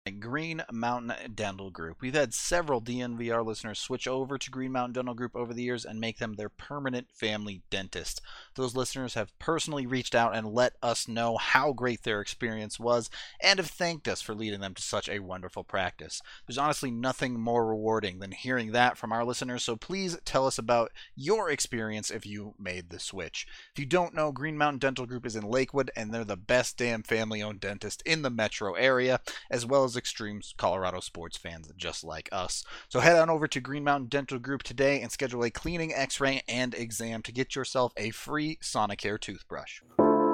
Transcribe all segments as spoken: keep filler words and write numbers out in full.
Green Mountain Dental Group. We've had several D N V R listeners switch over to Green Mountain Dental Group over the years and make them their permanent family dentist. Those listeners have personally reached out and let us know how great their experience was and have thanked us for leading them to such a wonderful practice. There's honestly nothing more rewarding than hearing that from our listeners, so please tell us about your experience if you made the switch. If you don't know, Green Mountain Dental Group is in Lakewood, and they're the best damn family-owned dentist in the metro area, as well as extreme Colorado sports fans just like us. So head on over to Green Mountain Dental Group today and schedule a cleaning, x-ray, and exam to get yourself a free Sonicare toothbrush.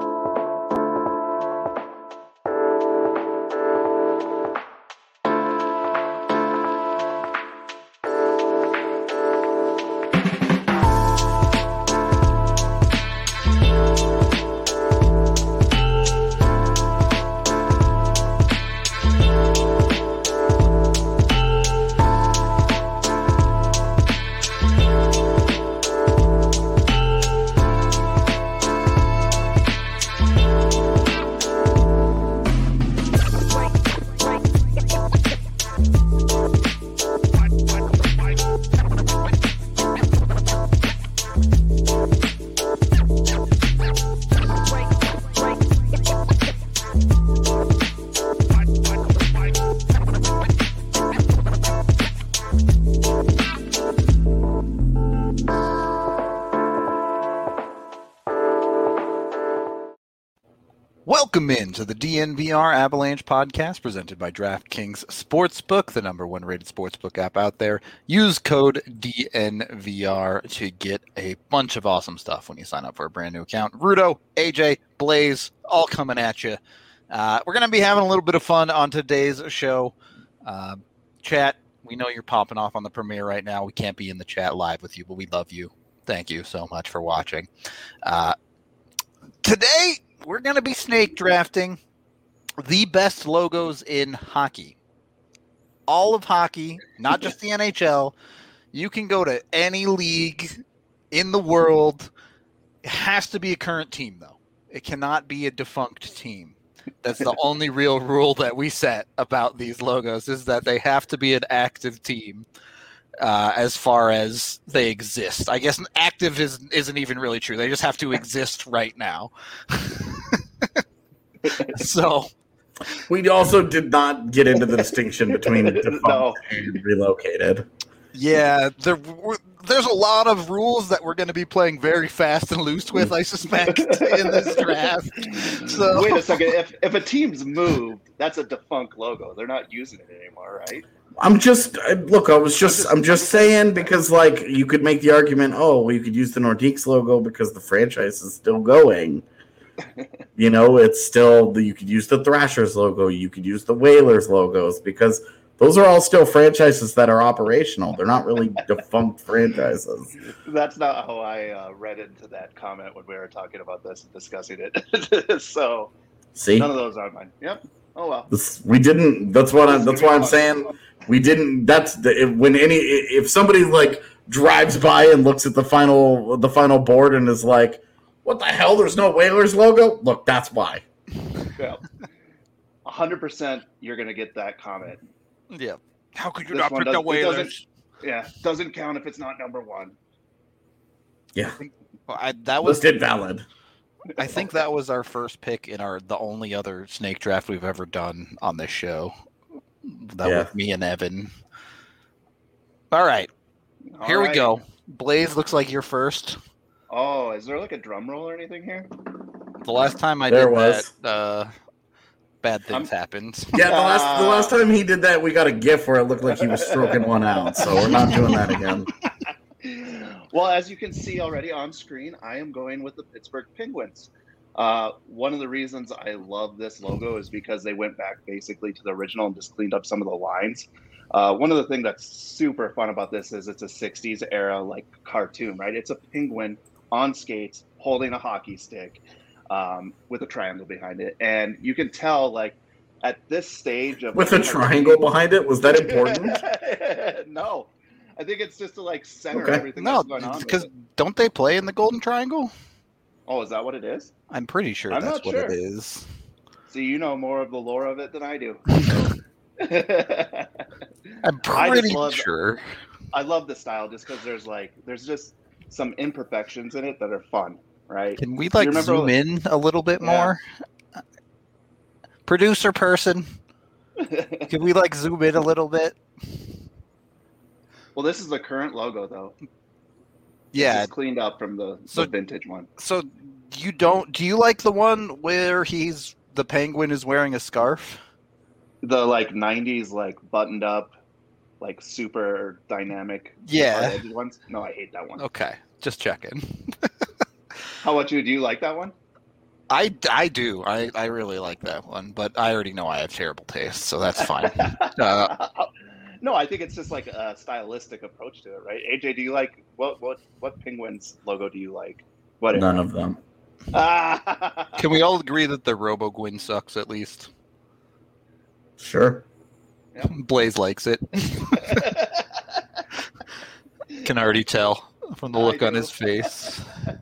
Welcome into the D N V R Avalanche podcast presented by DraftKings Sportsbook, the number one rated sportsbook app out there. Use code D N V R to get a bunch of awesome stuff when you sign up for a brand new account. Rudo, A J, Blaze, all coming at you. Uh, we're going to be having a little bit of fun on today's show. Uh, chat, we know you're popping off on the premiere right now. We can't be in the chat live with you, but we love you. Thank you so much for watching. Uh, today, we're going to be snake drafting the best logos in hockey. All of hockey, not just the N H L. You can go to any league in the world. It has to be a current team, though. It cannot be a defunct team. That's the only real rule that we set about these logos, is that they have to be an active team uh, as far as they exist. I guess active is, isn't even really true. They just have to exist right now. So we also did not get into the distinction between defunct no. and relocated. Yeah, there there's a lot of rules that we're going to be playing very fast and loose with, I suspect, in this draft. So wait a second. If if a team's moved, that's a defunct logo. They're not using it anymore, right? I'm just look. I was just. I'm just saying, because like you could make the argument. Oh, well, you could use the Nordiques logo because the franchise is still going. You know, it's still the, you could use the Thrashers logo, you could use the Whalers logos, because those are all still franchises that are operational. They're not really defunct franchises. That's not how I uh, read into that comment when we were talking about this and discussing it. So, see, none of those are mine. Yep. Oh well. This, we didn't. That's what. I, that's why I'm saying we didn't. That's the, if, when any if somebody like drives by and looks at the final the final board and is like, what the hell? There's no Whalers logo? Look, that's why. Yeah. one hundred percent you're going to get that comment. Yeah. How could you This not one pick does- the it doesn't- Whalers? Yeah. Doesn't count if it's not number one. Yeah. Well, I, that was Listed valid. I think that was our first pick in our the only other snake draft we've ever done on this show. That Yeah. was me and Evan. All right. All Here right. we go. Blaze, looks like you're first. Oh, is there like a drum roll or anything here? The last time I There did was. that, uh, bad things I'm- happened. Yeah, the last the last time he did that, we got a GIF where it looked like he was stroking one out. So we're not doing that again. Well, as you can see already on screen, I am going with the Pittsburgh Penguins. Uh, one of the reasons I love this logo is because they went back basically to the original and just cleaned up some of the lines. Uh, one of the things that's super fun about this is it's a sixties era like cartoon, right? It's a penguin on skates holding a hockey stick um, with a triangle behind it. And you can tell, like, at this stage of... With a triangle behind it? Was that important? No. I think it's just to, like, center Okay. everything No, that's going on. because with it. don't they play in the Golden Triangle? Oh, is that what it is? I'm pretty sure I'm that's not what sure. it is. See, you know more of the lore of it than I do. I'm I just pretty love- sure. I love the style just because there's like there's just some imperfections in it that are fun, right? Can we like remember- zoom in a little bit Yeah. more? Producer person, can we like zoom in a little bit? Well, this is the current logo though. Yeah. It's cleaned up from the, So- the vintage one. So you don't? Do you like the one where he's the penguin is wearing a scarf? The like nineties like buttoned up, like super dynamic. Yeah. hard edged ones. No, I hate that one. Okay, just checking. How about you? Do you like that one? I, I do. I, I really like that one, but I already know I have terrible taste, so that's fine. Uh, No, I think it's just like a stylistic approach to it, right? A J, do you like what what what Penguins logo do you like? What None of them. Can we all agree that the Robo Gwyn sucks at least? Sure. Blaze likes it. Can already tell from the I look on do. his face.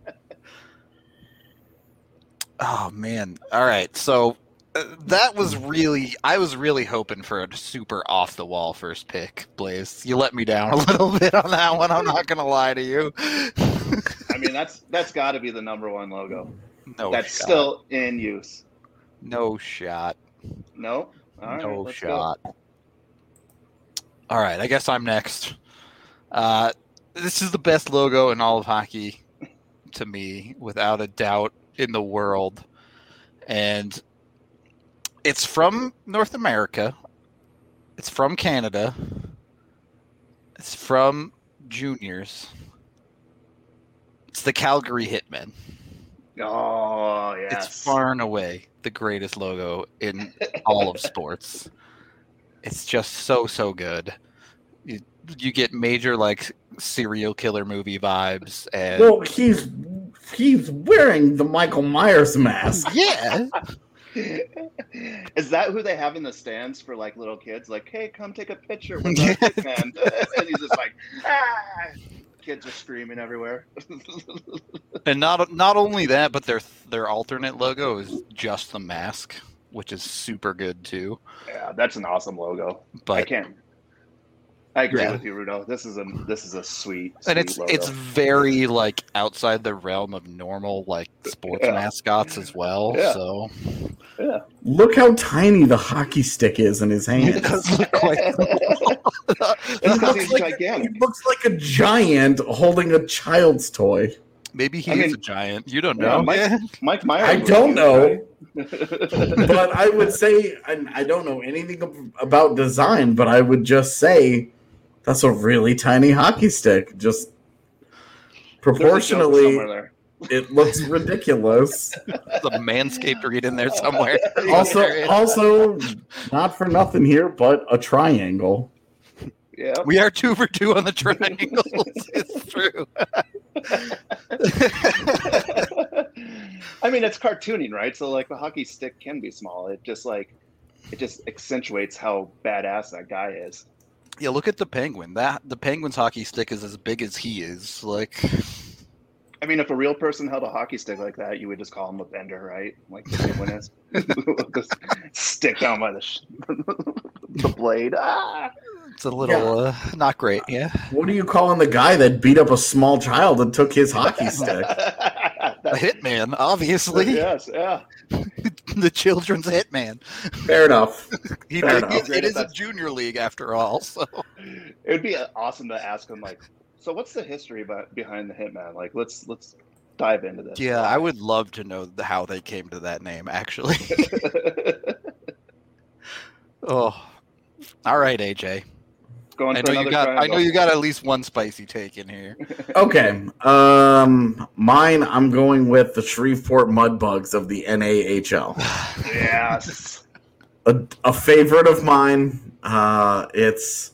Oh man. All right. So uh, that was really I was really hoping for a super off the wall first pick, Blaze. You let me down a little bit on that one. I'm not going to lie to you. I mean, that's that's got to be the number one logo. No that's shot. still in use. No shot. No, all right, no let's go. shot. All right, I guess I'm next. Uh, this is the best logo in all of hockey to me, without a doubt in the world. And it's from North America. It's from Canada. It's from juniors. It's the Calgary Hitmen. Oh yes, It's far and away the greatest logo in all of sports. It's just so, so good. You, you get major, like, serial killer movie vibes. And Well, he's he's wearing the Michael Myers mask. yeah. Is that who they have in the stands for like little kids? Like, hey, come take a picture with Yeah. us, man. And he's just like, ah! Kids are screaming everywhere. And not not only that, but their their alternate logo is just the mask, which is super good too. Yeah, that's an awesome logo. I But can't. I agree Yeah. with you, Rudo. This is a this is a sweet, and sweet it's logo. it's very like outside the realm of normal like sports Yeah. mascots as well. Yeah. So yeah. Look how tiny the hockey stick is in his it hand. does look quite It's He because looks he's like- gigantic. He looks like a giant holding a child's toy. Maybe he I is mean- a giant. You don't Yeah, know. Mike- Yeah. Mike Myers. I was don't huge, know, right? but I would say, and I don't know anything ab- about design, but I would just say that's a really tiny hockey stick. Just There's a joke proportionally, somewhere there. it looks ridiculous. There's a Manscaped read in there somewhere. Also, also, not for nothing here, but a triangle. Yeah. We are two for two on the triangles. It's true. I mean, it's cartooning, right? So like the hockey stick can be small. It just like it just accentuates how badass that guy is. Yeah, look at the penguin. That the penguin's hockey stick is as big as he is. Like, I mean, if a real person held a hockey stick like that, you would just call him a bender, right? Like the penguin is. Just stick down by the sh- the blade. Ah! it's a little uh, not great. Yeah, What are you calling the guy that beat up a small child and took his hockey stick? a hitman, obviously. Yes, yeah. The children's hitman. Fair enough. He, Fair it- enough. it is a junior league after all. So It would be awesome to ask him like, so what's the history about, behind the Hitman? Like, let's let's dive into this. yeah, I would love to know the, how they came to that name. Actually. Oh, all right, A J. Going I for know you another got. I triangle. know you got at least one spicy take in here. Okay. Um, mine, I'm going with the Shreveport Mudbugs of the N A H L. Yes. A, a favorite of mine. Uh, it's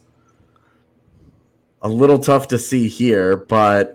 a little tough to see here, but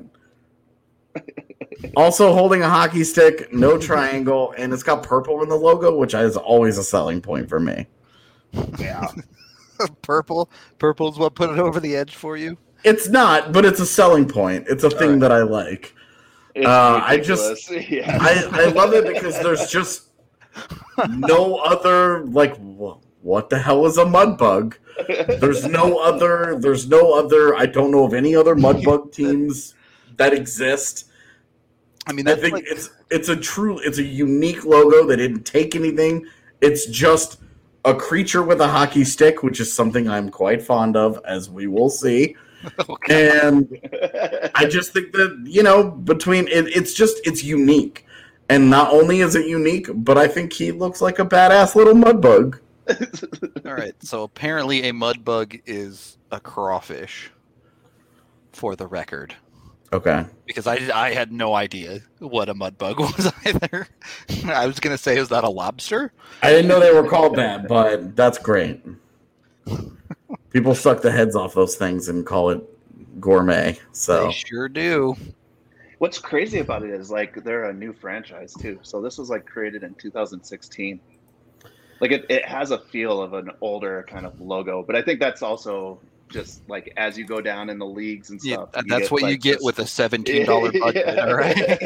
also holding a hockey stick, no triangle, and it's got purple in the logo, which is always a selling point for me. Yeah. Purple. Purple is what put it over the edge for you. It's not, but it's a selling point. It's a thing right. that I like. It's Uh, I just- ridiculous. yeah. I, I love it because there's just no other, like, wh- what the hell is a mud bug? There's no other. There's no other. I don't know of any other mud bug teams that exist. I mean, I that's think like, it's it's a true. It's a unique logo. They didn't take anything. It's just a creature with a hockey stick, which is something I'm quite fond of, as we will see. okay. And I just think that, you know, between it, it's just it's unique. And not only is it unique, but I think he looks like a badass little mud bug. All right. So apparently, a mud bug is a crawfish. For the record. Okay. Because I, I had no idea what a mud bug was either. I was gonna say, is that a lobster? I didn't know they were called that, but that's great. People suck the heads off those things and call it gourmet. So They sure do. What's crazy about it is like they're a new franchise too. So this was like created in two thousand sixteen. Like it, it has a feel of an older kind of logo, but I think that's also just like as you go down in the leagues and stuff. Yeah, you that's get, what like, you get this- with a seventeen dollar budget, Yeah. all right?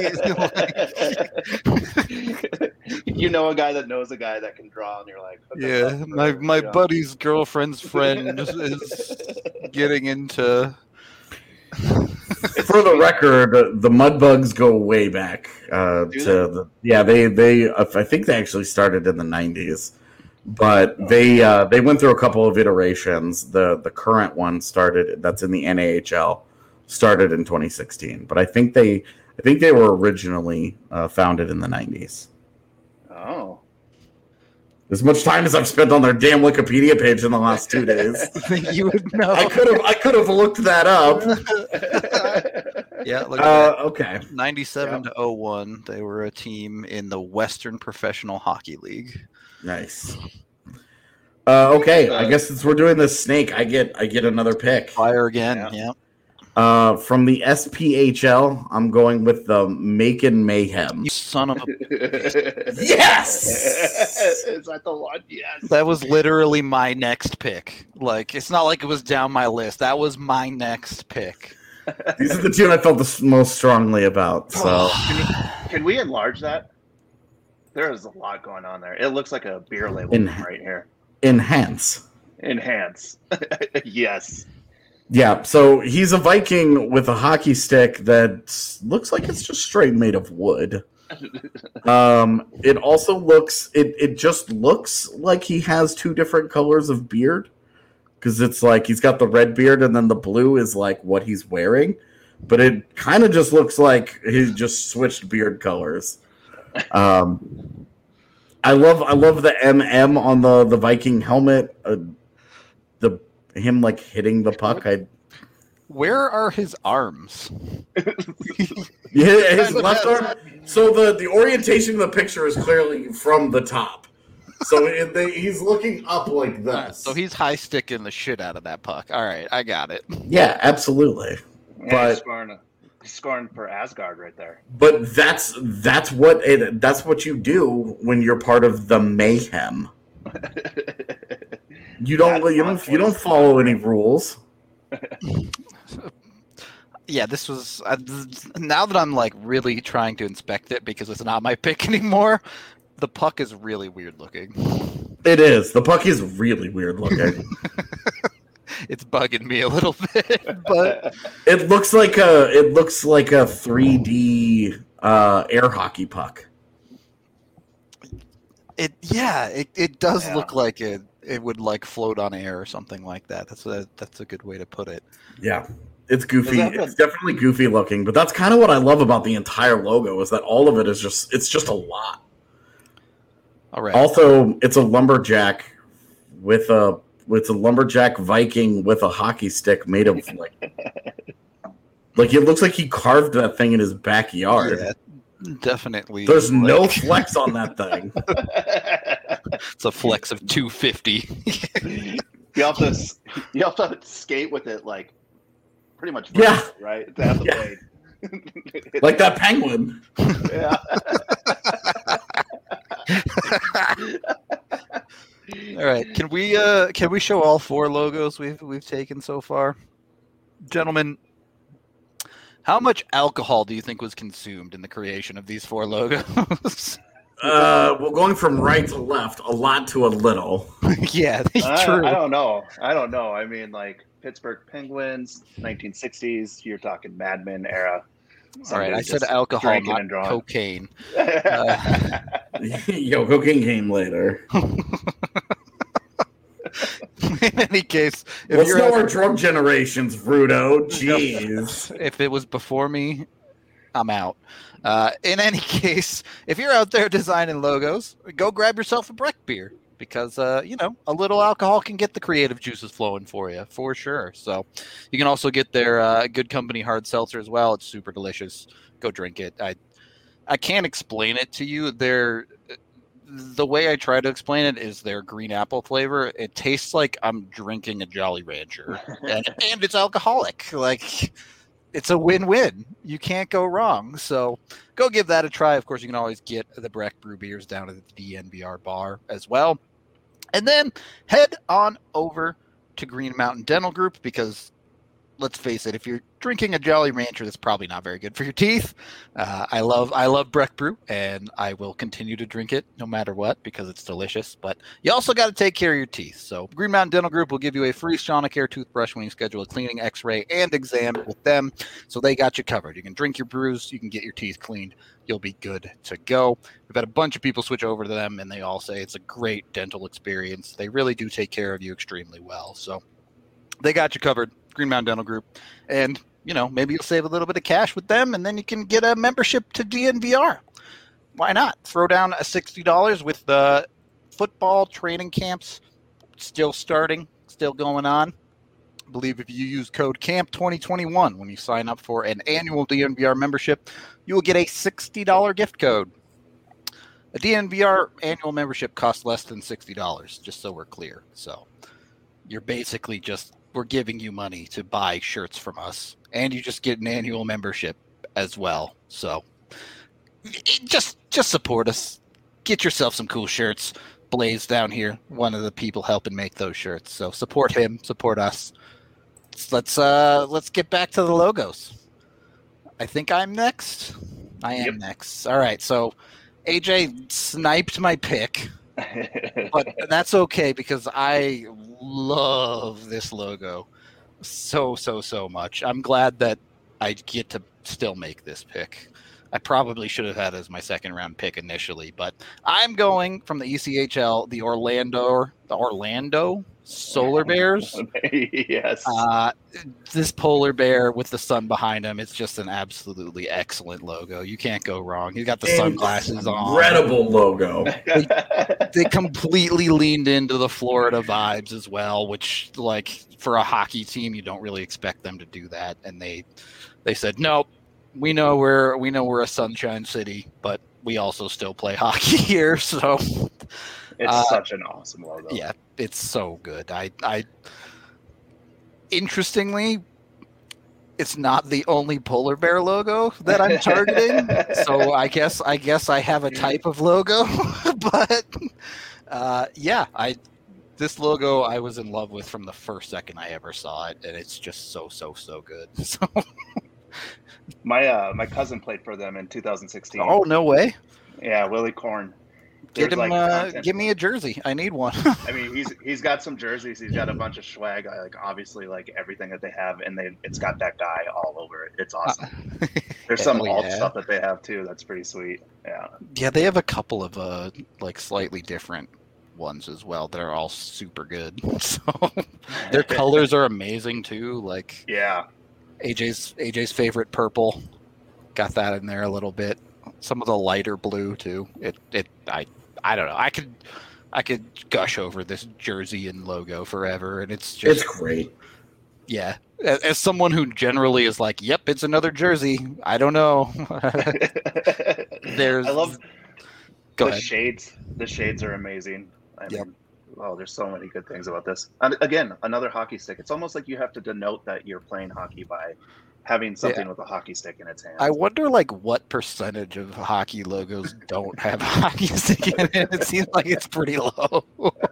You know a guy that knows a guy that can draw, and you're like, okay, Yeah, well, my my you know. buddy's girlfriend's friend is, is getting into. for the record, the mud bugs go way back. Uh, Do to they? the, yeah, they they I think they actually started in the nineties, but they uh, they went through a couple of iterations. The the current one started that's in the N A H L started in twenty sixteen, but I think they I think they were originally uh, founded in the nineties. Oh. As much time as I've spent on their damn Wikipedia page in the last two days, You would know. I could have I could have looked that up. Yeah, look at Uh, that. okay. ninety-seven to oh one, they were a team in the Western Professional Hockey League. Nice. Uh, okay, I guess since we're doing this snake, I get I get another pick. Fire again, Yeah. yeah. Uh, from the S P H L, I'm going with the Macon Mayhem. You son of a... Yes! Is that the one? Yes. That was literally my next pick. Like, it's not like it was down my list. That was my next pick. These are the two I felt the s- most strongly about. So Can we enlarge that? There is a lot going on there. It looks like a beer label In- right here. enhance. Enhance. Yes. Yeah, so he's a Viking with a hockey stick that looks like it's just straight made of wood. Um, it also looks it it just looks like he has two different colors of beard because it's like he's got the red beard and then the blue is like what he's wearing, but it kind of just looks like he just switched beard colors. Um, I love I love the M M on the the Viking helmet. Uh, the him like hitting the puck. I Where are his arms? yeah, his left arm. So the the orientation of the picture is clearly from the top. So it, they, he's looking up like All this. right, so he's high sticking the shit out of that puck. All right, I got it. yeah, absolutely. Yeah, But- he's scoring, he's scoring for Asgard right there. But that's that's what it that's what you do when you're part of the mayhem. You don't That's you not don't you don't follow any rules. Yeah, this was uh, th- now that I'm like really trying to inspect it because it's not my pick anymore. The puck is really weird looking. It is. The puck is really weird looking. It's bugging me a little bit, but It looks like a it looks like a three D uh, air hockey puck. it yeah, it, it does Yeah. look like it it would like float on air or something like that. That's a that's a good way to put it. Yeah. It's goofy. Is that the- It's definitely goofy looking, but that's kind of what I love about the entire logo is that all of it is just it's just a lot. All right. Also, it's a lumberjack with a it's a lumberjack Viking with a hockey stick made of like like it looks like he carved that thing in his backyard. Yeah, definitely. There's no like, flex on that thing. it's a flex of two fifty. You have to s- you have to skate with it like pretty much Yeah. vertical, right? To have the Yeah. blade. Like that penguin. Yeah. All right, can we uh can we show all four logos we've we've taken so far, gentlemen? How much alcohol do you think was consumed in the creation of these four logos? Uh, well, going from right to left, a lot to a little. Yeah, I, true. I don't know. I don't know. I mean, like Pittsburgh Penguins, nineteen sixties. You're talking Mad Men era. All right, Somebody I said just alcohol, drinking not and drawing. cocaine. Uh, Yo, cocaine came later. in any case, if Let's you're know out our there- drug generations, Fruto. Jeez. if it was before me, I'm out. Uh, in any case, if you're out there designing logos, go grab yourself a Breck beer because, uh, you know, a little alcohol can get the creative juices flowing for you, for sure. So you can also get their uh, Good Company hard seltzer as well. It's super delicious. Go drink it. I I can't explain it to you. They're, the way I try to explain it is their green apple flavor. It tastes like I'm drinking a Jolly Rancher, and, and it's alcoholic. Like, it's a win-win. You can't go wrong. So go give that a try. Of course, you can always get the Breck Brew beers down at the D N V R bar as well. And then head on over to Green Mountain Dental Group because, let's face it, if you're drinking a Jolly Rancher, that's probably not very good for your teeth. Uh, I love I love Breck Brew, and I will continue to drink it no matter what because it's delicious. But you also got to take care of your teeth. So Green Mountain Dental Group will give you a free Sonicare toothbrush when you schedule a cleaning, X-ray, and exam with them. So they got you covered. You can drink your brews. You can get your teeth cleaned. You'll be good to go. We've had a bunch of people switch over to them, and they all say it's a great dental experience. They really do take care of you extremely well. So they got you covered. Green Mountain Dental Group, and you know, maybe you'll save a little bit of cash with them, and then you can get a membership to D N V R. Why not? Throw down a sixty dollars with the football training camps still starting, still going on. I believe if you use code camp twenty twenty-one when you sign up for an annual D N V R membership, you will get a sixty dollars gift code. A D N V R annual membership costs less than sixty dollars, just so we're clear. So you're basically just we're giving you money to buy shirts from us, and you just get an annual membership as well. So it, just just support us. Get yourself some cool shirts. Blaze down here, one of the people helping make those shirts. So support him, support us. Let's uh let's get back to the logos. I think I'm next. I am Yep. next. All right. So A J sniped my pick. But that's okay because I love this logo so, so, so much. I'm glad that I get to still make this pick. I probably should have had it as my second round pick initially, but I'm going from the E C H L, the Orlando, the Orlando Solar Bears. Yes. Uh, this polar bear with the sun behind him, it's just an absolutely excellent logo. You can't go wrong. He's got the sunglasses on. Incredible logo. They completely leaned into the Florida vibes as well, which, like, for a hockey team, you don't really expect them to do that. And they they said, nope, we know we're we know we're a sunshine city, but we also still play hockey here. So it's uh, such an awesome logo. yeah, it's so good. I I interestingly, it's not the only polar bear logo that I'm targeting. So I guess I guess I have a type of logo, but uh, yeah, I this logo I was in love with from the first second I ever saw it, and it's just so so so good. So My uh, my cousin played for them in two thousand sixteen. oh no way! Yeah, Willie Korn. Get There's, him, like, uh, content- give me a jersey. I need one. I mean, he's he's got some jerseys. He's got a bunch of swag. I like obviously like everything that they have, and they it's got that guy all over it. It's awesome. There's some Hell alt yeah. stuff that they have too. That's pretty sweet. Yeah. Yeah, they have a couple of uh like slightly different ones as well that are all super good. So their colors are amazing too. Like Yeah. A J's A J's favorite purple, got that in there a little bit. Some of the lighter blue too. It it I I don't know. I could I could gush over this jersey and logo forever, and it's just It's great. yeah. As, as someone who generally is like, yep, it's another jersey. I don't know. There's I love go the ahead. shades. The shades are amazing. I Yep. mean, oh, there's so many good things about this. And again, another hockey stick. It's almost like you have to denote that you're playing hockey by having something with a hockey stick in its hand. I wonder, like, what percentage of hockey logos don't have a hockey stick in it? It seems like it's pretty low.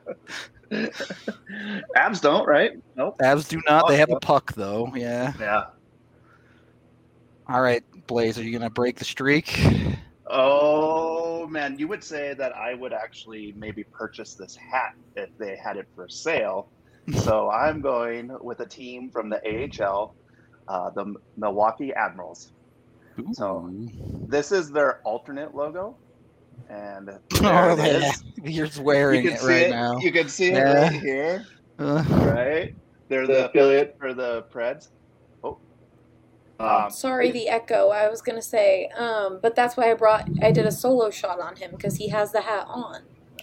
Abs don't, right? Nope. Avs do not. They have a puck, though. Yeah. Yeah. All right, Blaze, are you going to break the streak? Oh man, you would say that I would actually maybe purchase this hat if they had it for sale. So I'm going with a team from the A H L, uh, the Milwaukee Admirals. Ooh. So this is their alternate logo. And oh, it is. You're wearing you can it see right it. now. You can see Yeah. it right here. Uh, Right? They're the affiliate for the Preds. Oh. Um, Sorry, the echo. I was gonna say, um, but that's why I brought. I did a solo shot on him because he has the hat on.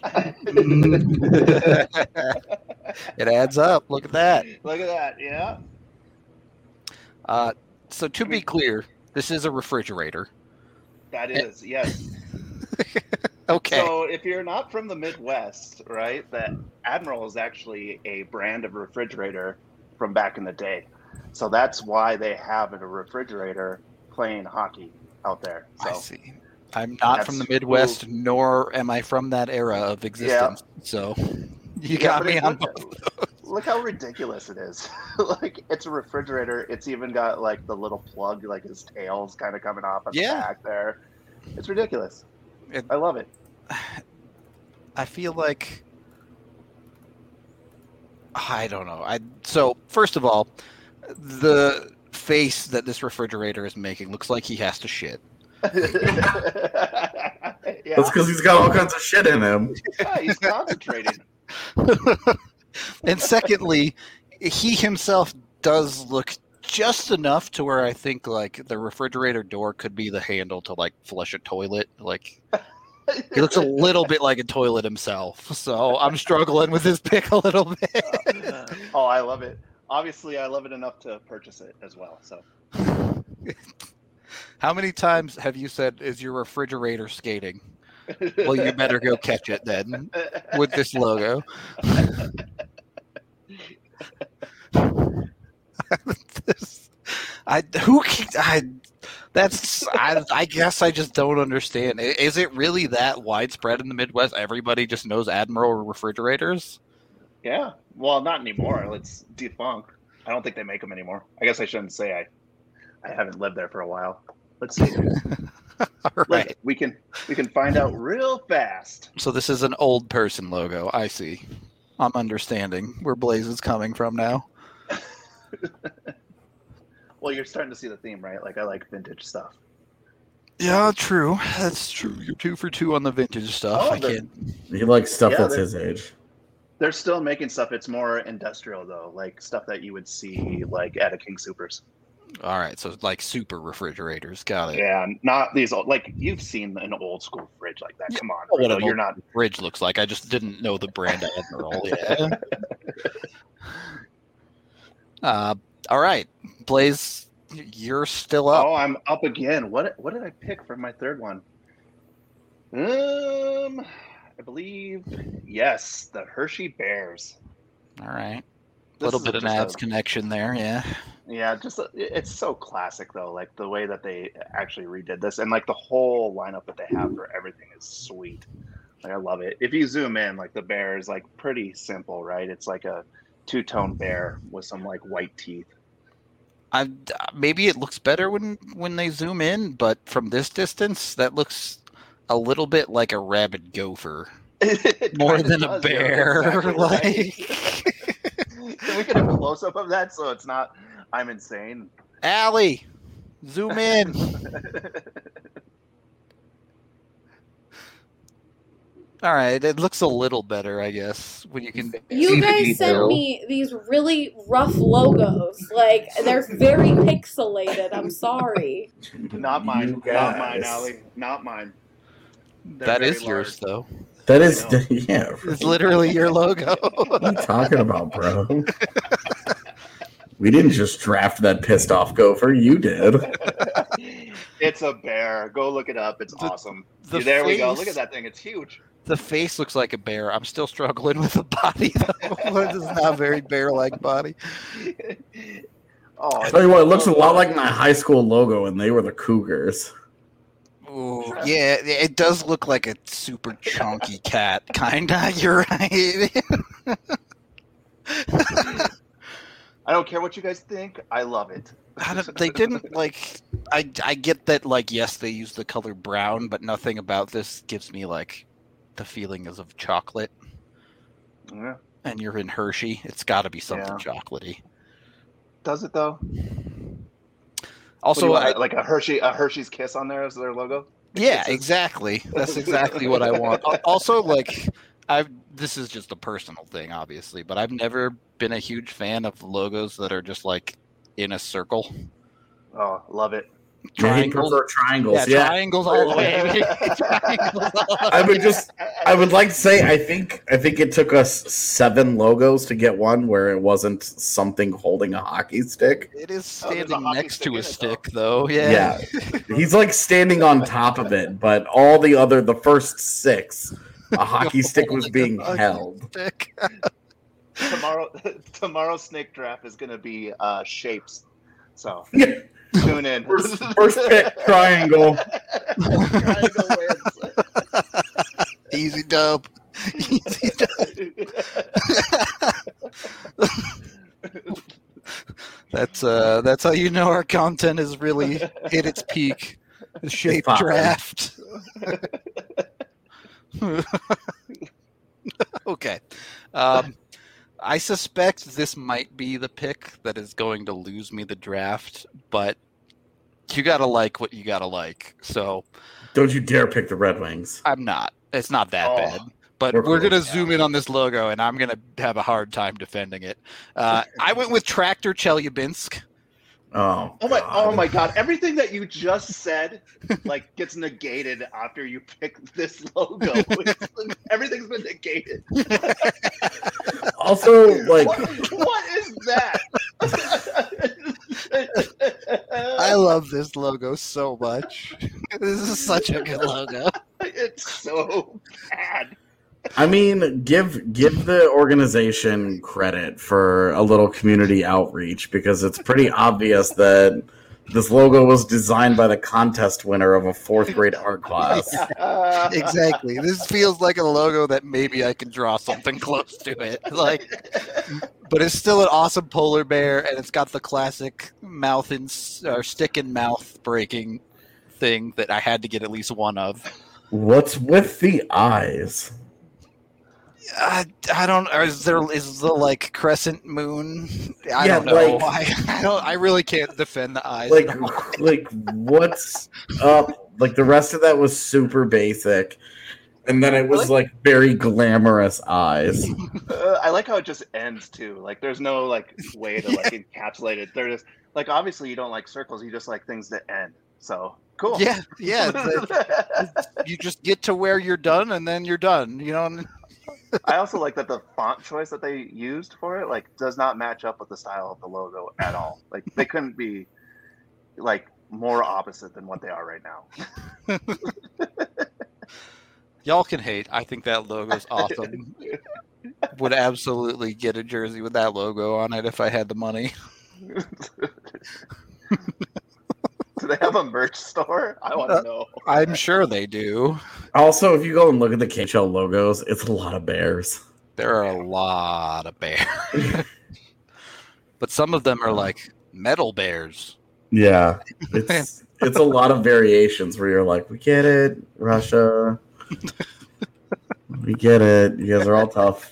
it adds up. Look at that. Look at that. Yeah. Uh, so to be clear, this is a refrigerator. That is, yes. Okay. So if you're not from the Midwest, right, the Admiral is actually a brand of refrigerator from back in the day. So that's why they have a refrigerator playing hockey out there. So I see. I'm not from the That's Midwest, cool. nor am I from that era of existence. So you Yeah, got but me it- on look, both. look how ridiculous it is. Like, it's a refrigerator. It's even got like the little plug, like his tail's kind of coming off on Yeah. the back there. It's ridiculous. It- I love it. I feel like I don't know. I so first of all, the face that this refrigerator is making looks like he has to shit. yeah. That's because he's got all kinds of shit in him. Yeah, he's concentrating. And secondly, he himself does look just enough to where I think like the refrigerator door could be the handle to like flush a toilet. Like he looks a little bit like a toilet himself. So I'm struggling with his pick a little bit. Oh, I love it. Obviously, I love it enough to purchase it as well. So How many times have you said, is your refrigerator skating? Well, you better go catch it then with this logo. This- I who can- I that's I, I guess I just don't understand. I- Is it really that widespread in the Midwest? Everybody just knows Admiral refrigerators. Yeah. Well, not anymore. It's defunct. I don't think they make them anymore. I guess I shouldn't say I. I haven't lived there for a while. Let's see. All Look, right. we can we can find out real fast. So this is an old person logo. I see. I'm understanding where Blaze is coming from now. Well, you're starting to see the theme, right? Like I like vintage stuff. Yeah, true. That's true. You're two for two on the vintage stuff. Oh, I the- can't. He likes stuff Yeah, that's they're- his age. They're still making stuff. It's more industrial though, like stuff that you would see like at a King Supers. All right, so like super refrigerators. Got it. Yeah, not these old. Like you've seen an old school fridge like that. Come on, What Rico, an you're old not. fridge looks like. I just didn't know the brand Admiral. Yeah. Uh, all right, Blaze, you're still up. Oh, I'm up again. What what did I pick for my third one? Um, I believe yes, the Hershey Bears. All right, a This little is bit of just Navs a- connection there. Yeah. Yeah, just a, it's so classic though. Like the way that they actually redid this, and like the whole lineup that they have for everything is sweet. Like I love it. If you zoom in, like the bear is like pretty simple, right? It's like a two-tone bear with some like white teeth. I maybe it looks better when when they zoom in, but from this distance, that looks a little bit like a rabid gopher It more kinda than does, a you're bear. exactly like. right. Can we get a close-up of that so it's not I'm insane? Allie, zoom in. All right, it looks a little better, I guess, when you can. You see the guys sent detail. me these really rough logos. Like they're very pixelated. I'm sorry. Not mine. You Not mine, guys. Allie. Not mine. They're That very is yours, large. though. That is, I know. yeah. It's literally your logo. What are you talking about, bro? We didn't just draft that pissed off gopher. You did. It's a bear. Go look it up. It's The- awesome. the there we go. face- Look at that thing. It's huge. The face looks like a bear. I'm still struggling with the body, though. It's not a very bear-like body. Oh, I tell you what, it looks a lot like my high school logo, and they were the Cougars. Ooh, yeah, it does look like a super chunky cat, kinda. You're right. I don't care what you guys think. I love it. I don't, they didn't like. I I get that. Like, yes, they use the color brown, but nothing about this gives me like the feeling is of chocolate. Yeah. And you're in Hershey. It's got to be something Yeah. chocolatey. Does it though? Also, What do you I, want, like a Hershey, a Hershey's Kiss on there as their logo. yeah, Kisses? exactly. That's exactly what I want. Al- Also, like, I've this is just a personal thing, obviously, but I've never been a huge fan of logos that are just like in a circle. Oh, love it. Yeah, he Triangles. prefer triangles. Yeah, Yeah, triangles all the way. Triangles all the I would way. just, I would like to say, I think, I think it took us seven logos to get one where it wasn't something holding a hockey stick. It is Oh, there's a standing hockey next stick to in a it, stick, though. Yeah. Yeah. He's like standing on top of it, but all the other, the first six, a hockey stick was being Holding a held. stick. Tomorrow, tomorrow's snake draft is going to be uh, shapes. So Yeah. tune in. First, first pick, triangle. Triangle wins. Easy dub. Easy dub. That's uh, that's how you know our content is really hit its peak. The shape popping. draft. Okay. Um, I suspect this might be the pick that is going to lose me the draft, but you gotta like what you gotta like. So Don't you dare pick the Red Wings. I'm not. It's not that Oh, bad. But we're we're close. gonna zoom in on this logo, and I'm gonna have a hard time defending it. Uh, I went with Tractor Chelyabinsk. Oh, Oh my! God. Oh my God! Everything that you just said, like, gets negated after you pick this logo. Everything's been negated. Also, like, What, what is that? I love this logo so much. This is such a good logo. It's so bad. I mean, give give the organization credit for a little community outreach because it's pretty obvious that this logo was designed by the contest winner of a fourth grade art class. Exactly. This feels like a logo that maybe I can draw something close to it. Like, but it's still an awesome polar bear, and it's got the classic mouth and or stick and mouth breaking thing that I had to get at least one of. What's with the eyes? I, I don't. Or is there is the like crescent moon? I Yeah, don't know. like- I, I don't. I really can't defend the eyes. Like, at all. like what's up? Like the rest of that was super basic, and then it was like very glamorous eyes. Uh, I like how it just ends too. Like, there's no like way to like encapsulate it. They're just like, obviously you don't like circles. You just like things that end. So cool. Yeah, yeah. it's like- you just get to where you're done, and then you're done. You know. I also like that the font choice that they used for it like does not match up with the style of the logo at all. Like, they couldn't be like more opposite than what they are right now. Y'all can hate. I think that logo's awesome. Would absolutely get a jersey with that logo on it if I had the money. Do they have a merch store? I want to know. I'm sure they do. Also, if you go and look at the K H L logos, it's a lot of bears. There are a lot of bears. But some of them are like metal bears. Yeah, it's it's a lot of variations where you're like, we get it, Russia. We get it. You guys are all tough.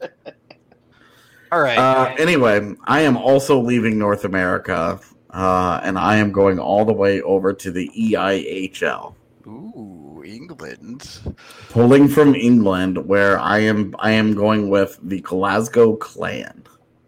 All right. Uh, anyway, I am also leaving North America, uh, and I am going all the way over to the E I H L. Ooh, England. Pulling from England, where I am I am going with the Glasgow Clan.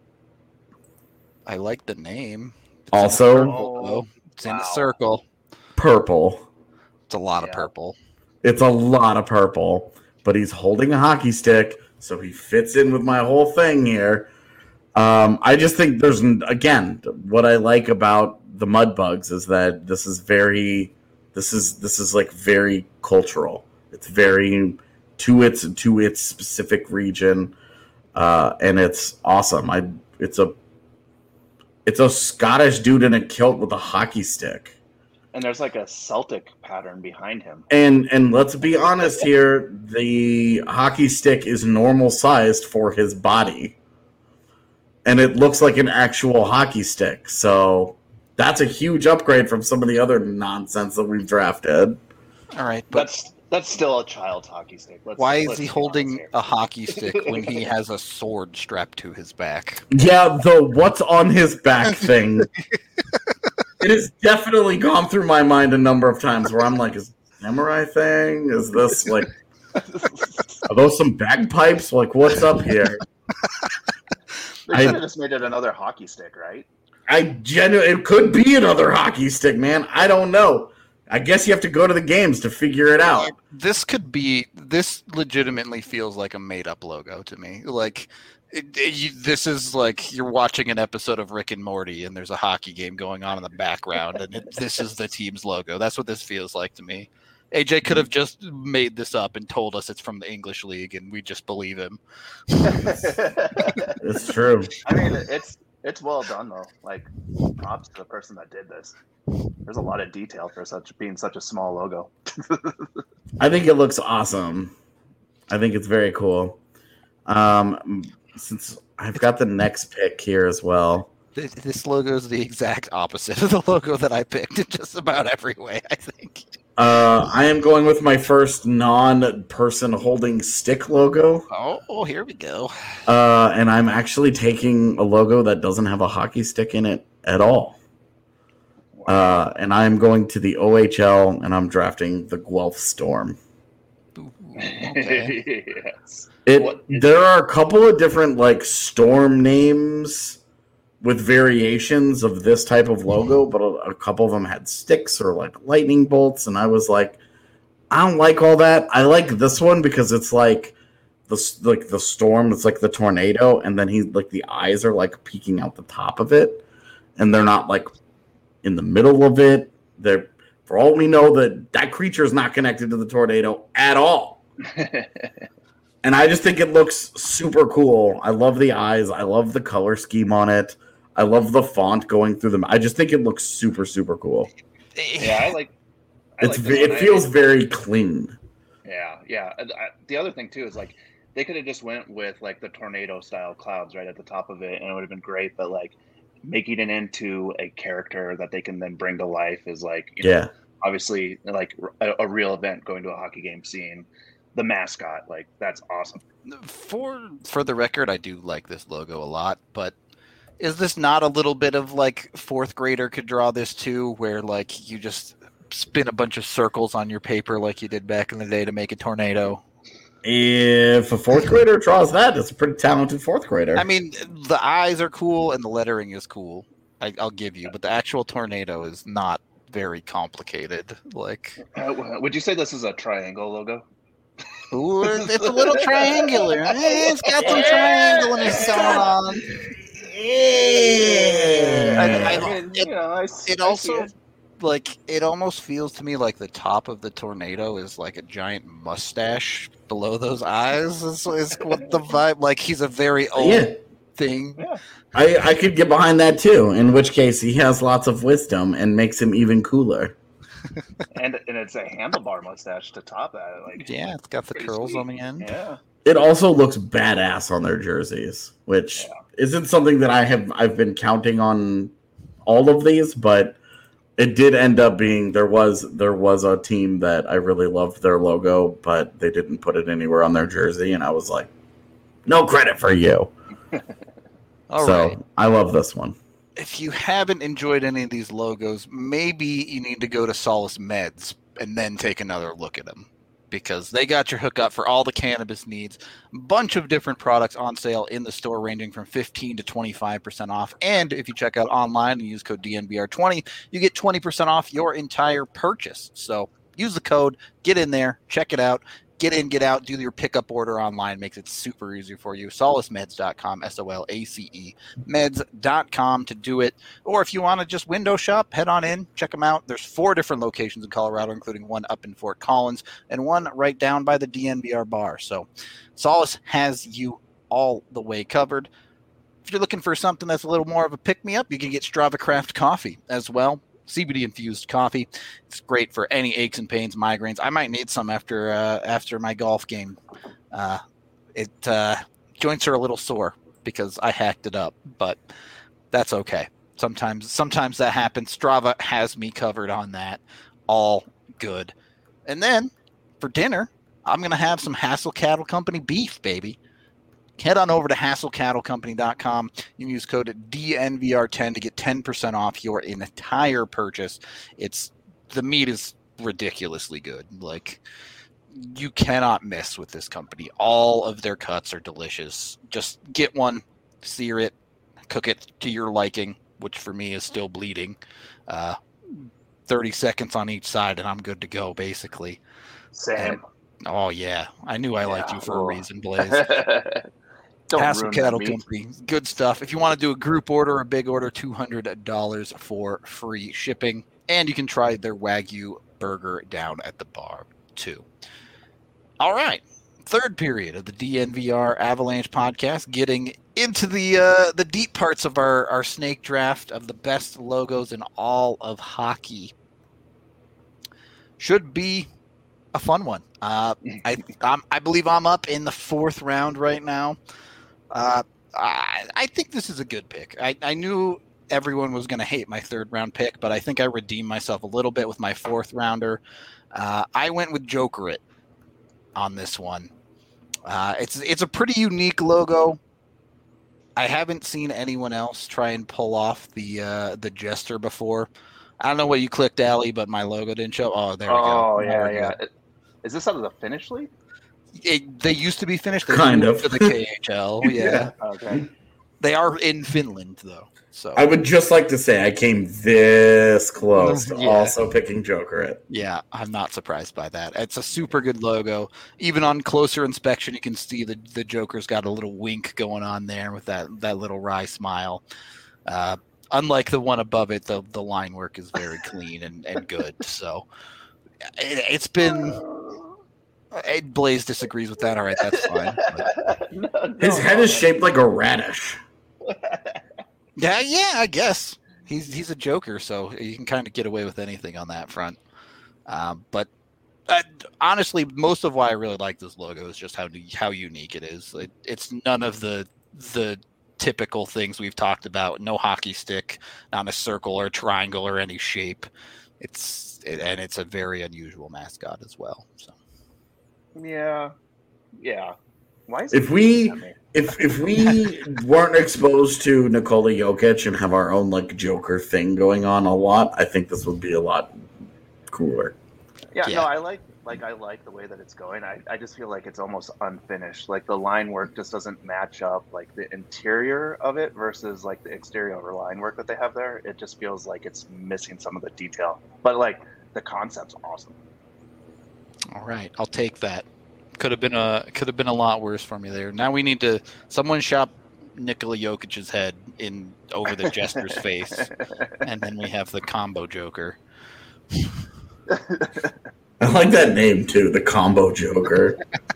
I like the name. It's Also- in a circle, though. It's in a Wow. circle. Purple. It's a lot of Yeah. purple. It's a lot of purple, but he's holding a hockey stick, so he fits in with my whole thing here. Um, I just think there's, again, what I like about the Mudbugs is that this is very, this is this is like very cultural. It's very to its to its specific region, uh, and it's awesome. I it's a it's a Scottish dude in a kilt with a hockey stick. And there's like a Celtic pattern behind him. And and let's be honest here, the hockey stick is normal sized for his body. and it looks like an actual hockey stick. So that's a huge upgrade from some of the other nonsense that we've drafted. All right, but That's that's still a child's hockey stick. Let's, why is let's he be honest holding here. a hockey stick when he has a sword strapped to his back? Yeah, the what's on his back thing. It has definitely gone through my mind a number of times where I'm like, is this a samurai thing? Is this like, are those some bagpipes? Like, what's up here? They I- should have just made it another hockey stick, right? I genuinely, it could be another hockey stick, man. I don't know. I guess you have to go to the games to figure it out. This could be. This legitimately feels like a made-up logo to me. Like, it, it, you, this is like you're watching an episode of Rick and Morty, and there's a hockey game going on in the background, and it, this is the team's logo. That's what this feels like to me. A J could have just made this up and told us it's from the English League, and we just believe him. It's true. I mean, it's it's well done though. Like, props to the person that did this. There's a lot of detail for such being such a small logo. I think it looks awesome. I think it's very cool. Um, since I've got the next pick here as well. This, this logo is the exact opposite of the logo that I picked in just about every way, I think. Uh, I am going with my first non-person holding stick logo. Oh, here we go. Uh, and I'm actually taking a logo that doesn't have a hockey stick in it at all. Uh, and I'm going to the O H L, and I'm drafting the Guelph Storm. Ooh, okay. Yes. It What is there are a couple of different like storm names with variations of this type of logo, but a, a couple of them had sticks or like lightning bolts, and I was like, I don't like all that. I like this one because it's like the like the storm. It's like the tornado, and then he like the eyes are like peeking out the top of it, and they're not like in the middle of it. They're, for all we know, that that creature is not connected to the tornado at all. And I just think it looks super cool. I love the eyes. I love the color scheme on it. I love the font going through them. I just think it looks super, super cool. Yeah, I like. I It's like ve- this one. it I- feels very clean. Yeah, yeah. And I, the other thing too is like they could have just went with like the tornado style clouds right at the top of it, and it would have been great. But like making it into a character that they can then bring to life is like, you know, Yeah. obviously like a, a real event, going to a hockey game, seeing the mascot, like that's awesome. For for the record, I do like this logo a lot, but is this not a little bit of like fourth grader could draw this too, where like you just spin a bunch of circles on your paper like you did back in the day to make a tornado? If a fourth grader draws that, it's a pretty talented fourth grader. I mean, the eyes are cool and the lettering is cool. I, I'll give you, but the actual tornado is not very complicated. Like, Uh, would you say this is a triangle logo? ooh, it's a little triangular. Eh, it's got some triangularness going on. yeah. I- I- I mean, it- you know, I, s- It I also see it. like it almost feels to me like the top of the tornado is like a giant mustache below those eyes. Is, is what the vibe? Like he's a very old Yeah. thing. Yeah. I, I could get behind that too, in which case he has lots of wisdom and makes him even cooler. and and it's a handlebar mustache to top that. Like, Yeah, it's got the pretty curls sweet. on the end. Yeah. It also looks badass on their jerseys, which Yeah. isn't something that I have I've been counting on all of these, but it did end up being there was there was a team that I really loved their logo, but they didn't put it anywhere on their jersey, and I was like, no credit for you. All so right. I love this one. If you haven't enjoyed any of these logos, maybe you need to go to Solace Meds and then take another look at them, because they got your hookup for all the cannabis needs. Bunch of different products on sale in the store, ranging from fifteen to twenty-five percent off. And if you check out online and use code D N V R twenty, you get twenty percent off your entire purchase. So use the code, get in there, check it out. Get in, get out, do your pickup order online. Makes it super easy for you. solace meds dot com, S O L A C E, meds dot com to do it. Or if you want to just window shop, head on in, check them out. There's four different locations in Colorado, including one up in Fort Collins and one right down by the D N V R bar. So Solace has you all the way covered. If you're looking for something that's a little more of a pick-me-up, you can get Strava Craft coffee as well. C B D-infused coffee. It's great for any aches and pains, migraines. I might need some after uh, after my golf game. Uh, it uh, joints are a little sore because I hacked it up, but that's okay. Sometimes sometimes that happens. Strava has me covered on that. All good. And then for dinner, I'm going to have some Hassel Cattle Company beef, baby. Head on over to hassel cattle company dot com. You can use code D N V R ten to get ten percent off your entire purchase. It's the meat is ridiculously good. Like, you cannot miss with this company. All of their cuts are delicious. Just get one, sear it, cook it to your liking, which for me is still bleeding. Uh, thirty seconds on each side, and I'm good to go, basically. Same. And, oh, yeah. I knew I liked Yeah, you for well. a reason, Blaze. Don't Hassel ruin Cattle that meat. Company. Good stuff. If you want to do a group order or a big order, two hundred dollars for free shipping. And you can try their Wagyu burger down at the bar, too. All right. Third period of the D N V R Avalanche podcast, getting into the uh, the deep parts of our, our snake draft of the best logos in all of hockey. Should be a fun one. Uh, I I'm, I believe I'm up in the fourth round right now. Uh, I, I think this is a good pick. I, I knew everyone was going to hate my third round pick, but I think I redeemed myself a little bit with my fourth rounder. Uh, I went with Jokerit on this one. Uh, it's it's a pretty unique logo. I haven't seen anyone else try and pull off the uh, the Jester before. I don't know what you clicked, Allie, but my logo didn't show. Oh, there we go. Oh, Now yeah, we're yeah. good. It- Is this out of the Finnish league? It, they used to be finished. They Kind moved of. to the K H L. Yeah, Okay. they are in Finland though. So I would just like to say I came this close to Yeah. also picking Jokerit. yeah, I'm not surprised by that. It's a super good logo. Even on closer inspection, you can see the the Joker's got a little wink going on there with that that little wry smile. Uh, unlike the one above it, the the line work is very clean and, and good. So it, it's been. Uh, Blaze disagrees with that. All right, that's fine. But, No, no, His head no, is no. shaped like a radish. yeah, yeah, I guess he's he's a Joker, so you can kind of get away with anything on that front. Um, but uh, honestly, most of why I really like this logo is just how how unique it is. It, it's none of the the typical things we've talked about. No hockey stick, not a circle or a triangle or any shape. It's it, and it's a very unusual mascot as well. So. Yeah. Yeah. Why is If it we- at me? If if we weren't exposed to Nikola Jokic and have our own like Joker thing going on a lot, I think this would be a lot cooler. Yeah, Yeah. no, I like like I like the way that it's going. I, I just feel like it's almost unfinished. Like the line work just doesn't match up. Like the interior of it versus like the exterior of the line work that they have there. It just feels like it's missing some of the detail. But like the concept's awesome. All right, I'll take that. Could have been a could have been a lot worse for me there. Now we need to someone shop Nikola Jokic's head in over the Jester's face, and then we have the combo Joker. I like that name too, the Combo Joker.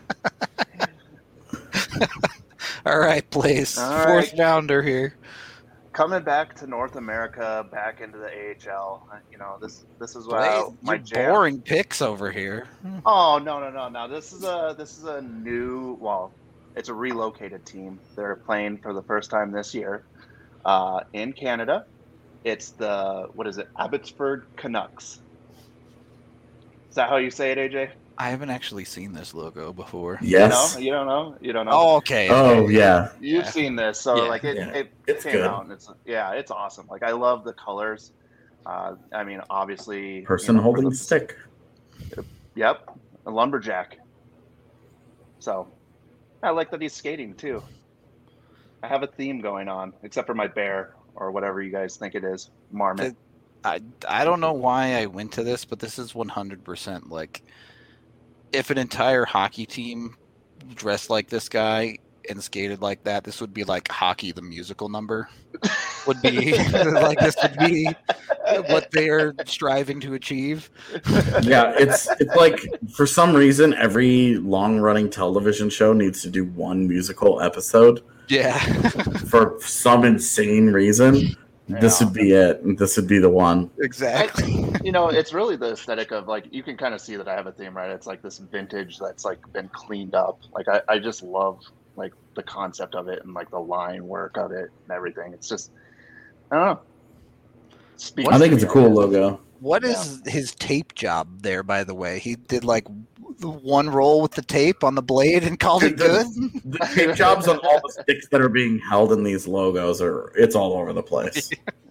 All right, Blaze, All fourth right. rounder here. Coming back to North America, back into the A H L. uh, You know this this is Blaze, uh, my you jam. boring picks over here. Oh no no no no! This is a this is a new well, it's a relocated team. They're playing for the first time this year, uh, in Canada. It's the what is it? Abbotsford Canucks. Is that how you say it, A J? I haven't actually seen this logo before. Yes. No, you don't know. You don't know. Oh, okay. Oh okay. yeah. You've Yeah. seen this, so Yeah, like it, yeah. it It's came good. out, and it's yeah, it's awesome. Like I love the colors. Uh, I mean, obviously, Person you know, for holding the- the stick. Yep, a lumberjack. So, I like that he's skating too. I have a theme going on, except for my bear or whatever you guys think it is, marmot. I, I don't know why I went to this, but this is one hundred percent like if an entire hockey team dressed like this guy and skated like that, this would be like Hockey the Musical number. Would be like this would be what they are striving to achieve. Yeah, it's it's like for some reason every long running television show needs to do one musical episode Yeah. for some insane reason. This Yeah. would be it. This would be the one. Exactly. You know, it's really the aesthetic of like you can kind of see that I have a theme, right? It's like this vintage that's like been cleaned up. Like I, I just love like the concept of it and like the line work of it and everything. It's just, I don't know. Speaks I think to it's a me, cool guess. logo. What is his tape job there, by the way? He did like one roll with the tape on the blade and called it The, good? the tape jobs on all the sticks that are being held in these logos are it's all over the place.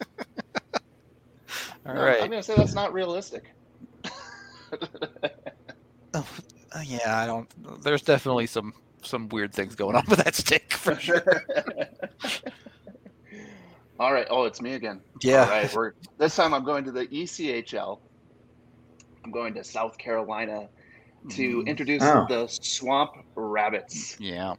All No, right. I'm gonna say that's not realistic. Oh, yeah, I don't. There's definitely some some weird things going on with that stick for sure. All right. Oh, it's me again. Yeah. All right. We're this time. I'm going to the E C H L. I'm going to South Carolina to Mm. introduce Oh. the Swamp Rabbits. Yeah.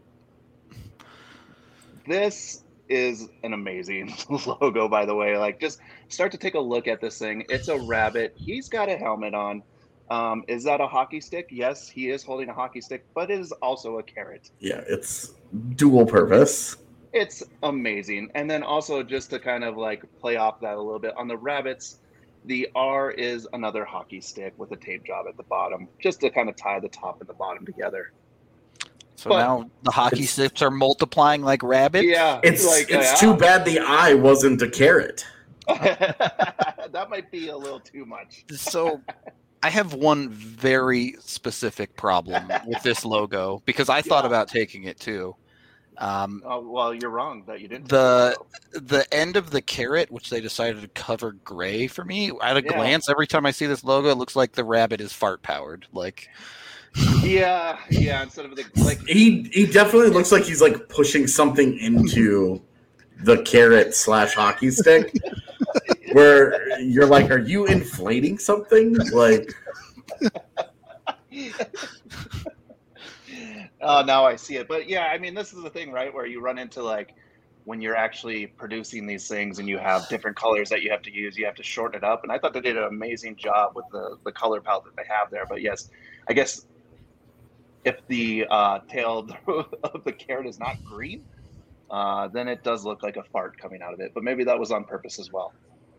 This is an amazing logo, by the way. Like, just start to take a look at this thing. It's a rabbit. He's got a helmet on. Um, is that a hockey stick? Yes, he is holding a hockey stick, but it is also a carrot. Yeah, it's dual purpose. It's amazing. And then also just to kind of like play off that a little bit on the rabbits, the R is another hockey stick with a tape job at the bottom, just to kind of tie the top and the bottom together. So But- now the hockey It's- sticks are multiplying like rabbits. Yeah, It's like, it's uh, too bad the eye wasn't a carrot. that might be a little too much. So I have one very specific problem with this logo because I thought Yeah. about taking it too. Um, Oh, well, you're wrong that you didn't. The- the end of the carrot, which they decided to cover gray for me, at a Yeah. glance, every time I see this logo, it looks like the rabbit is fart powered. Like, yeah, yeah. Instead of the like, He he definitely looks like he's like pushing something into the carrot slash hockey stick. Where you're like, are you inflating something? Like, oh, now I see it. But yeah, I mean, this is the thing, right? Where you run into like when you're actually producing these things and you have different colors that you have to use, you have to shorten it up. And I thought they did an amazing job with the the color palette that they have there. But yes, I guess if the uh, tail of the carrot is not green, uh, then it does look like a fart coming out of it. But maybe that was on purpose as well.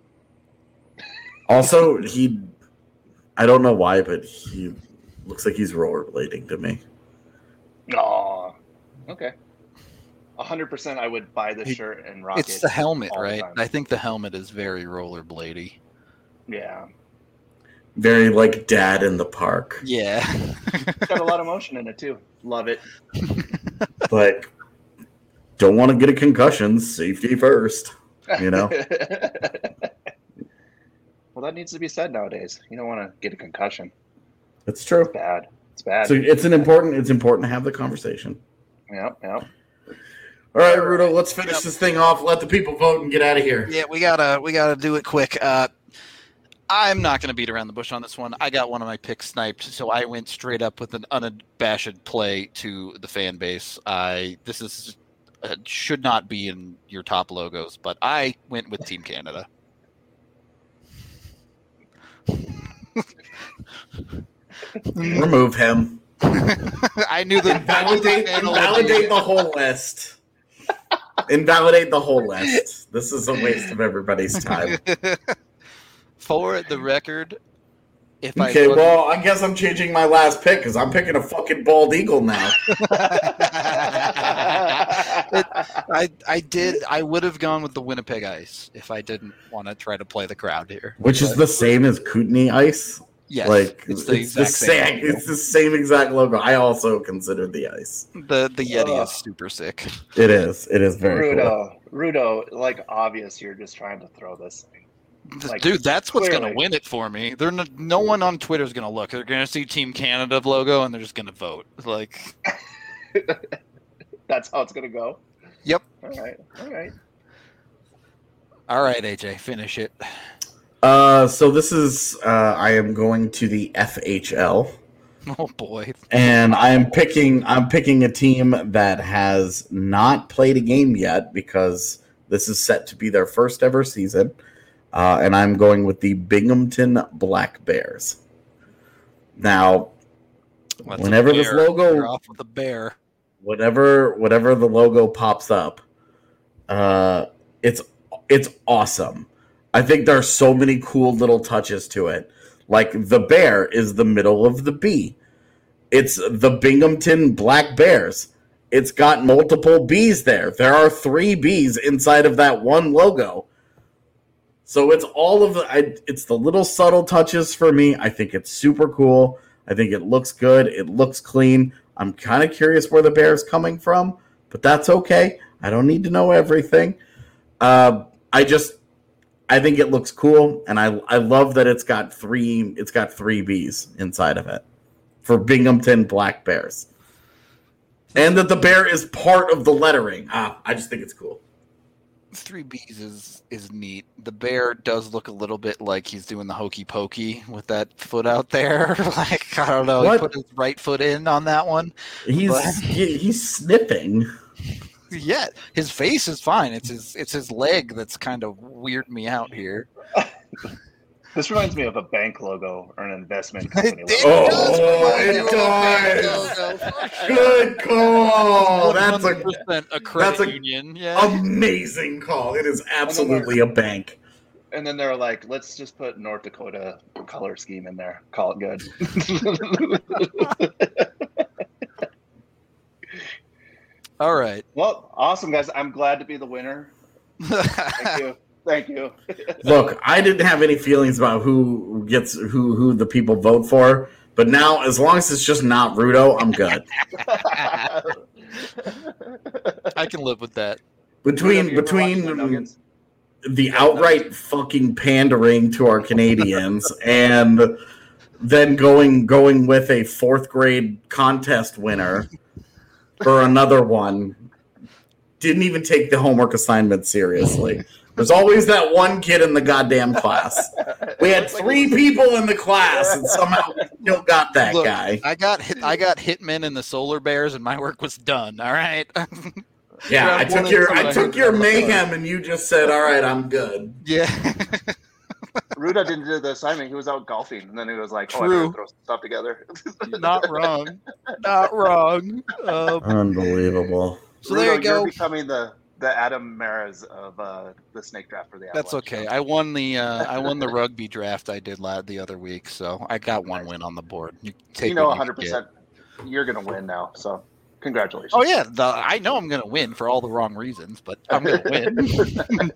also he, I don't know why, but he looks like he's rollerblading to me. Oh, okay. A hundred percent, I would buy this It- shirt and rock it. it's the helmet, all the right? time. I think the helmet is very rollerblady. Yeah, Very like dad in the park. Yeah. it's got a lot of motion in it too. Love it. Like, don't want to get a concussion. Safety first. You know? Well, that needs to be said nowadays. You don't want to get a concussion. It's true. It's bad. It's bad. So it's an important. It's important to have the conversation. Yep, yep. All right, Rudo, let's finish this thing off. Let the people vote and get out of here. Yeah, we gotta we gotta do it quick. Uh, I'm not gonna beat around the bush on this one. I got one of my picks sniped, so I went straight up with an unabashed play to the fan base. I this is uh, should not be in your top logos, but I went with Team Canada. Remove him. I knew that. Invalidate, invalidate the whole list. Invalidate the whole list. This is a waste of everybody's time. For the record, if I Okay, wasn't- well, I guess I'm changing my last pick because I'm picking a fucking bald eagle now. I I did I would have gone with the Winnipeg Ice if I didn't want to try to play the crowd here. Which is But, the same as Kootenai Ice. yes, like it's the exact same. same. It's the same exact logo. I also consider the ice. The the Yeti Ugh. is super sick. It is. It is very cool. Rudo, Rudo, like obvious, you're just trying to throw this thing. Like, Dude, that's what's clearly. going to win it for me. They're no, no one on Twitter is going to look. They're going to see Team Canada logo and they're just going to vote. Like, That's how it's gonna go. Yep. All right. All right. all right, A J, finish it. Uh, so this is. Uh, I am going to the F H L. Oh boy. And I am picking I'm picking a team that has not played a game yet because this is set to be their first ever season. Uh, and I'm going with the Binghamton Black Bears. Now, That's a whenever this bear. logo You're off with the bear. whatever whatever the logo pops up, uh, it's it's awesome. I think there are so many cool little touches to it. Like the bear is the middle of the B. It's the Binghamton Black Bears. it's got multiple B's there. There are three B's inside of that one logo. So it's all of the, I, it's the little subtle touches for me. I think it's super cool. I think it looks good. It looks clean. I'm kind of curious where the bear is coming from, but that's okay. I don't need to know everything. Uh, I just, I think it looks cool, and I I love that it's got three it's got three B's inside of it for Binghamton Black Bears, and that the bear is part of the lettering. Ah, I just think it's cool. Three B's is is neat. The bear does look a little bit like he's doing the hokey pokey with that foot out there. Like, I don't know, What? he put his right foot in on that one. He's But- he, he's sniffing. Yeah, his face is fine. It's his it's his leg that's kind of weirding me out here. This reminds me of a bank logo or an investment It, company it logo. Oh, does it remind me of a bank does. logo. Good call. That's a one hundred percent a credit that's a- union. Yeah. amazing call. It is absolutely a bank. And then they're like, let's just put North Dakota color scheme in there. Call it good. All right. Well, awesome, guys. I'm glad to be the winner. Thank you. Thank you. Look, I didn't have any feelings about who gets who who the people vote for, but now as long as it's just not Rudo, I'm good. I can live with that. Between You ever watch the between Nuggets? the outright fucking pandering to our Canadians and then going going with a fourth grade contest winner for another one, didn't even take the homework assignment seriously. There's always that one kid in the goddamn class. We had three people in the class, and somehow we still got that Look, guy. I got hit, I got Hitmen and the Solar Bears, and my work was done. All right. Yeah, I Round one took and your two, I I took heard your that mayhem, and you just said, "All right, I'm good." Yeah. Ruda didn't do the assignment. He was out golfing, and then he was like, "Oh, I True. better throw some stuff together." Not wrong. Not wrong. Um, Unbelievable. so there you Rudo, go. You're becoming the the Adam Maras of uh, the snake draft for the That's Avalanche. okay. I won the uh, I won the rugby draft I did la- the other week, so I got one win on the board. You take You know, what one you hundred can percent. You're gonna win now. So, congratulations. get. Oh yeah, the, I know I'm gonna win for all the wrong reasons, but I'm gonna win.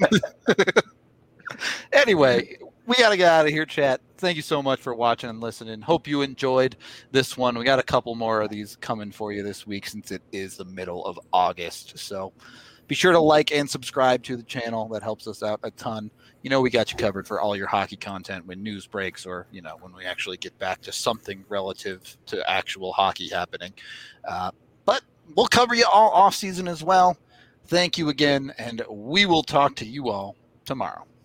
Anyway, we got to get out of here, chat. Thank you so much for watching and listening. Hope you enjoyed this one. We got a couple more of these coming for you this week since it is the middle of August. So be sure to like and subscribe to the channel. That helps us out a ton. You know, we got you covered for all your hockey content when news breaks or, you know, when we actually get back to something relative to actual hockey happening. Uh, but we'll cover you all off season as well. Thank you again, and we will talk to you all tomorrow.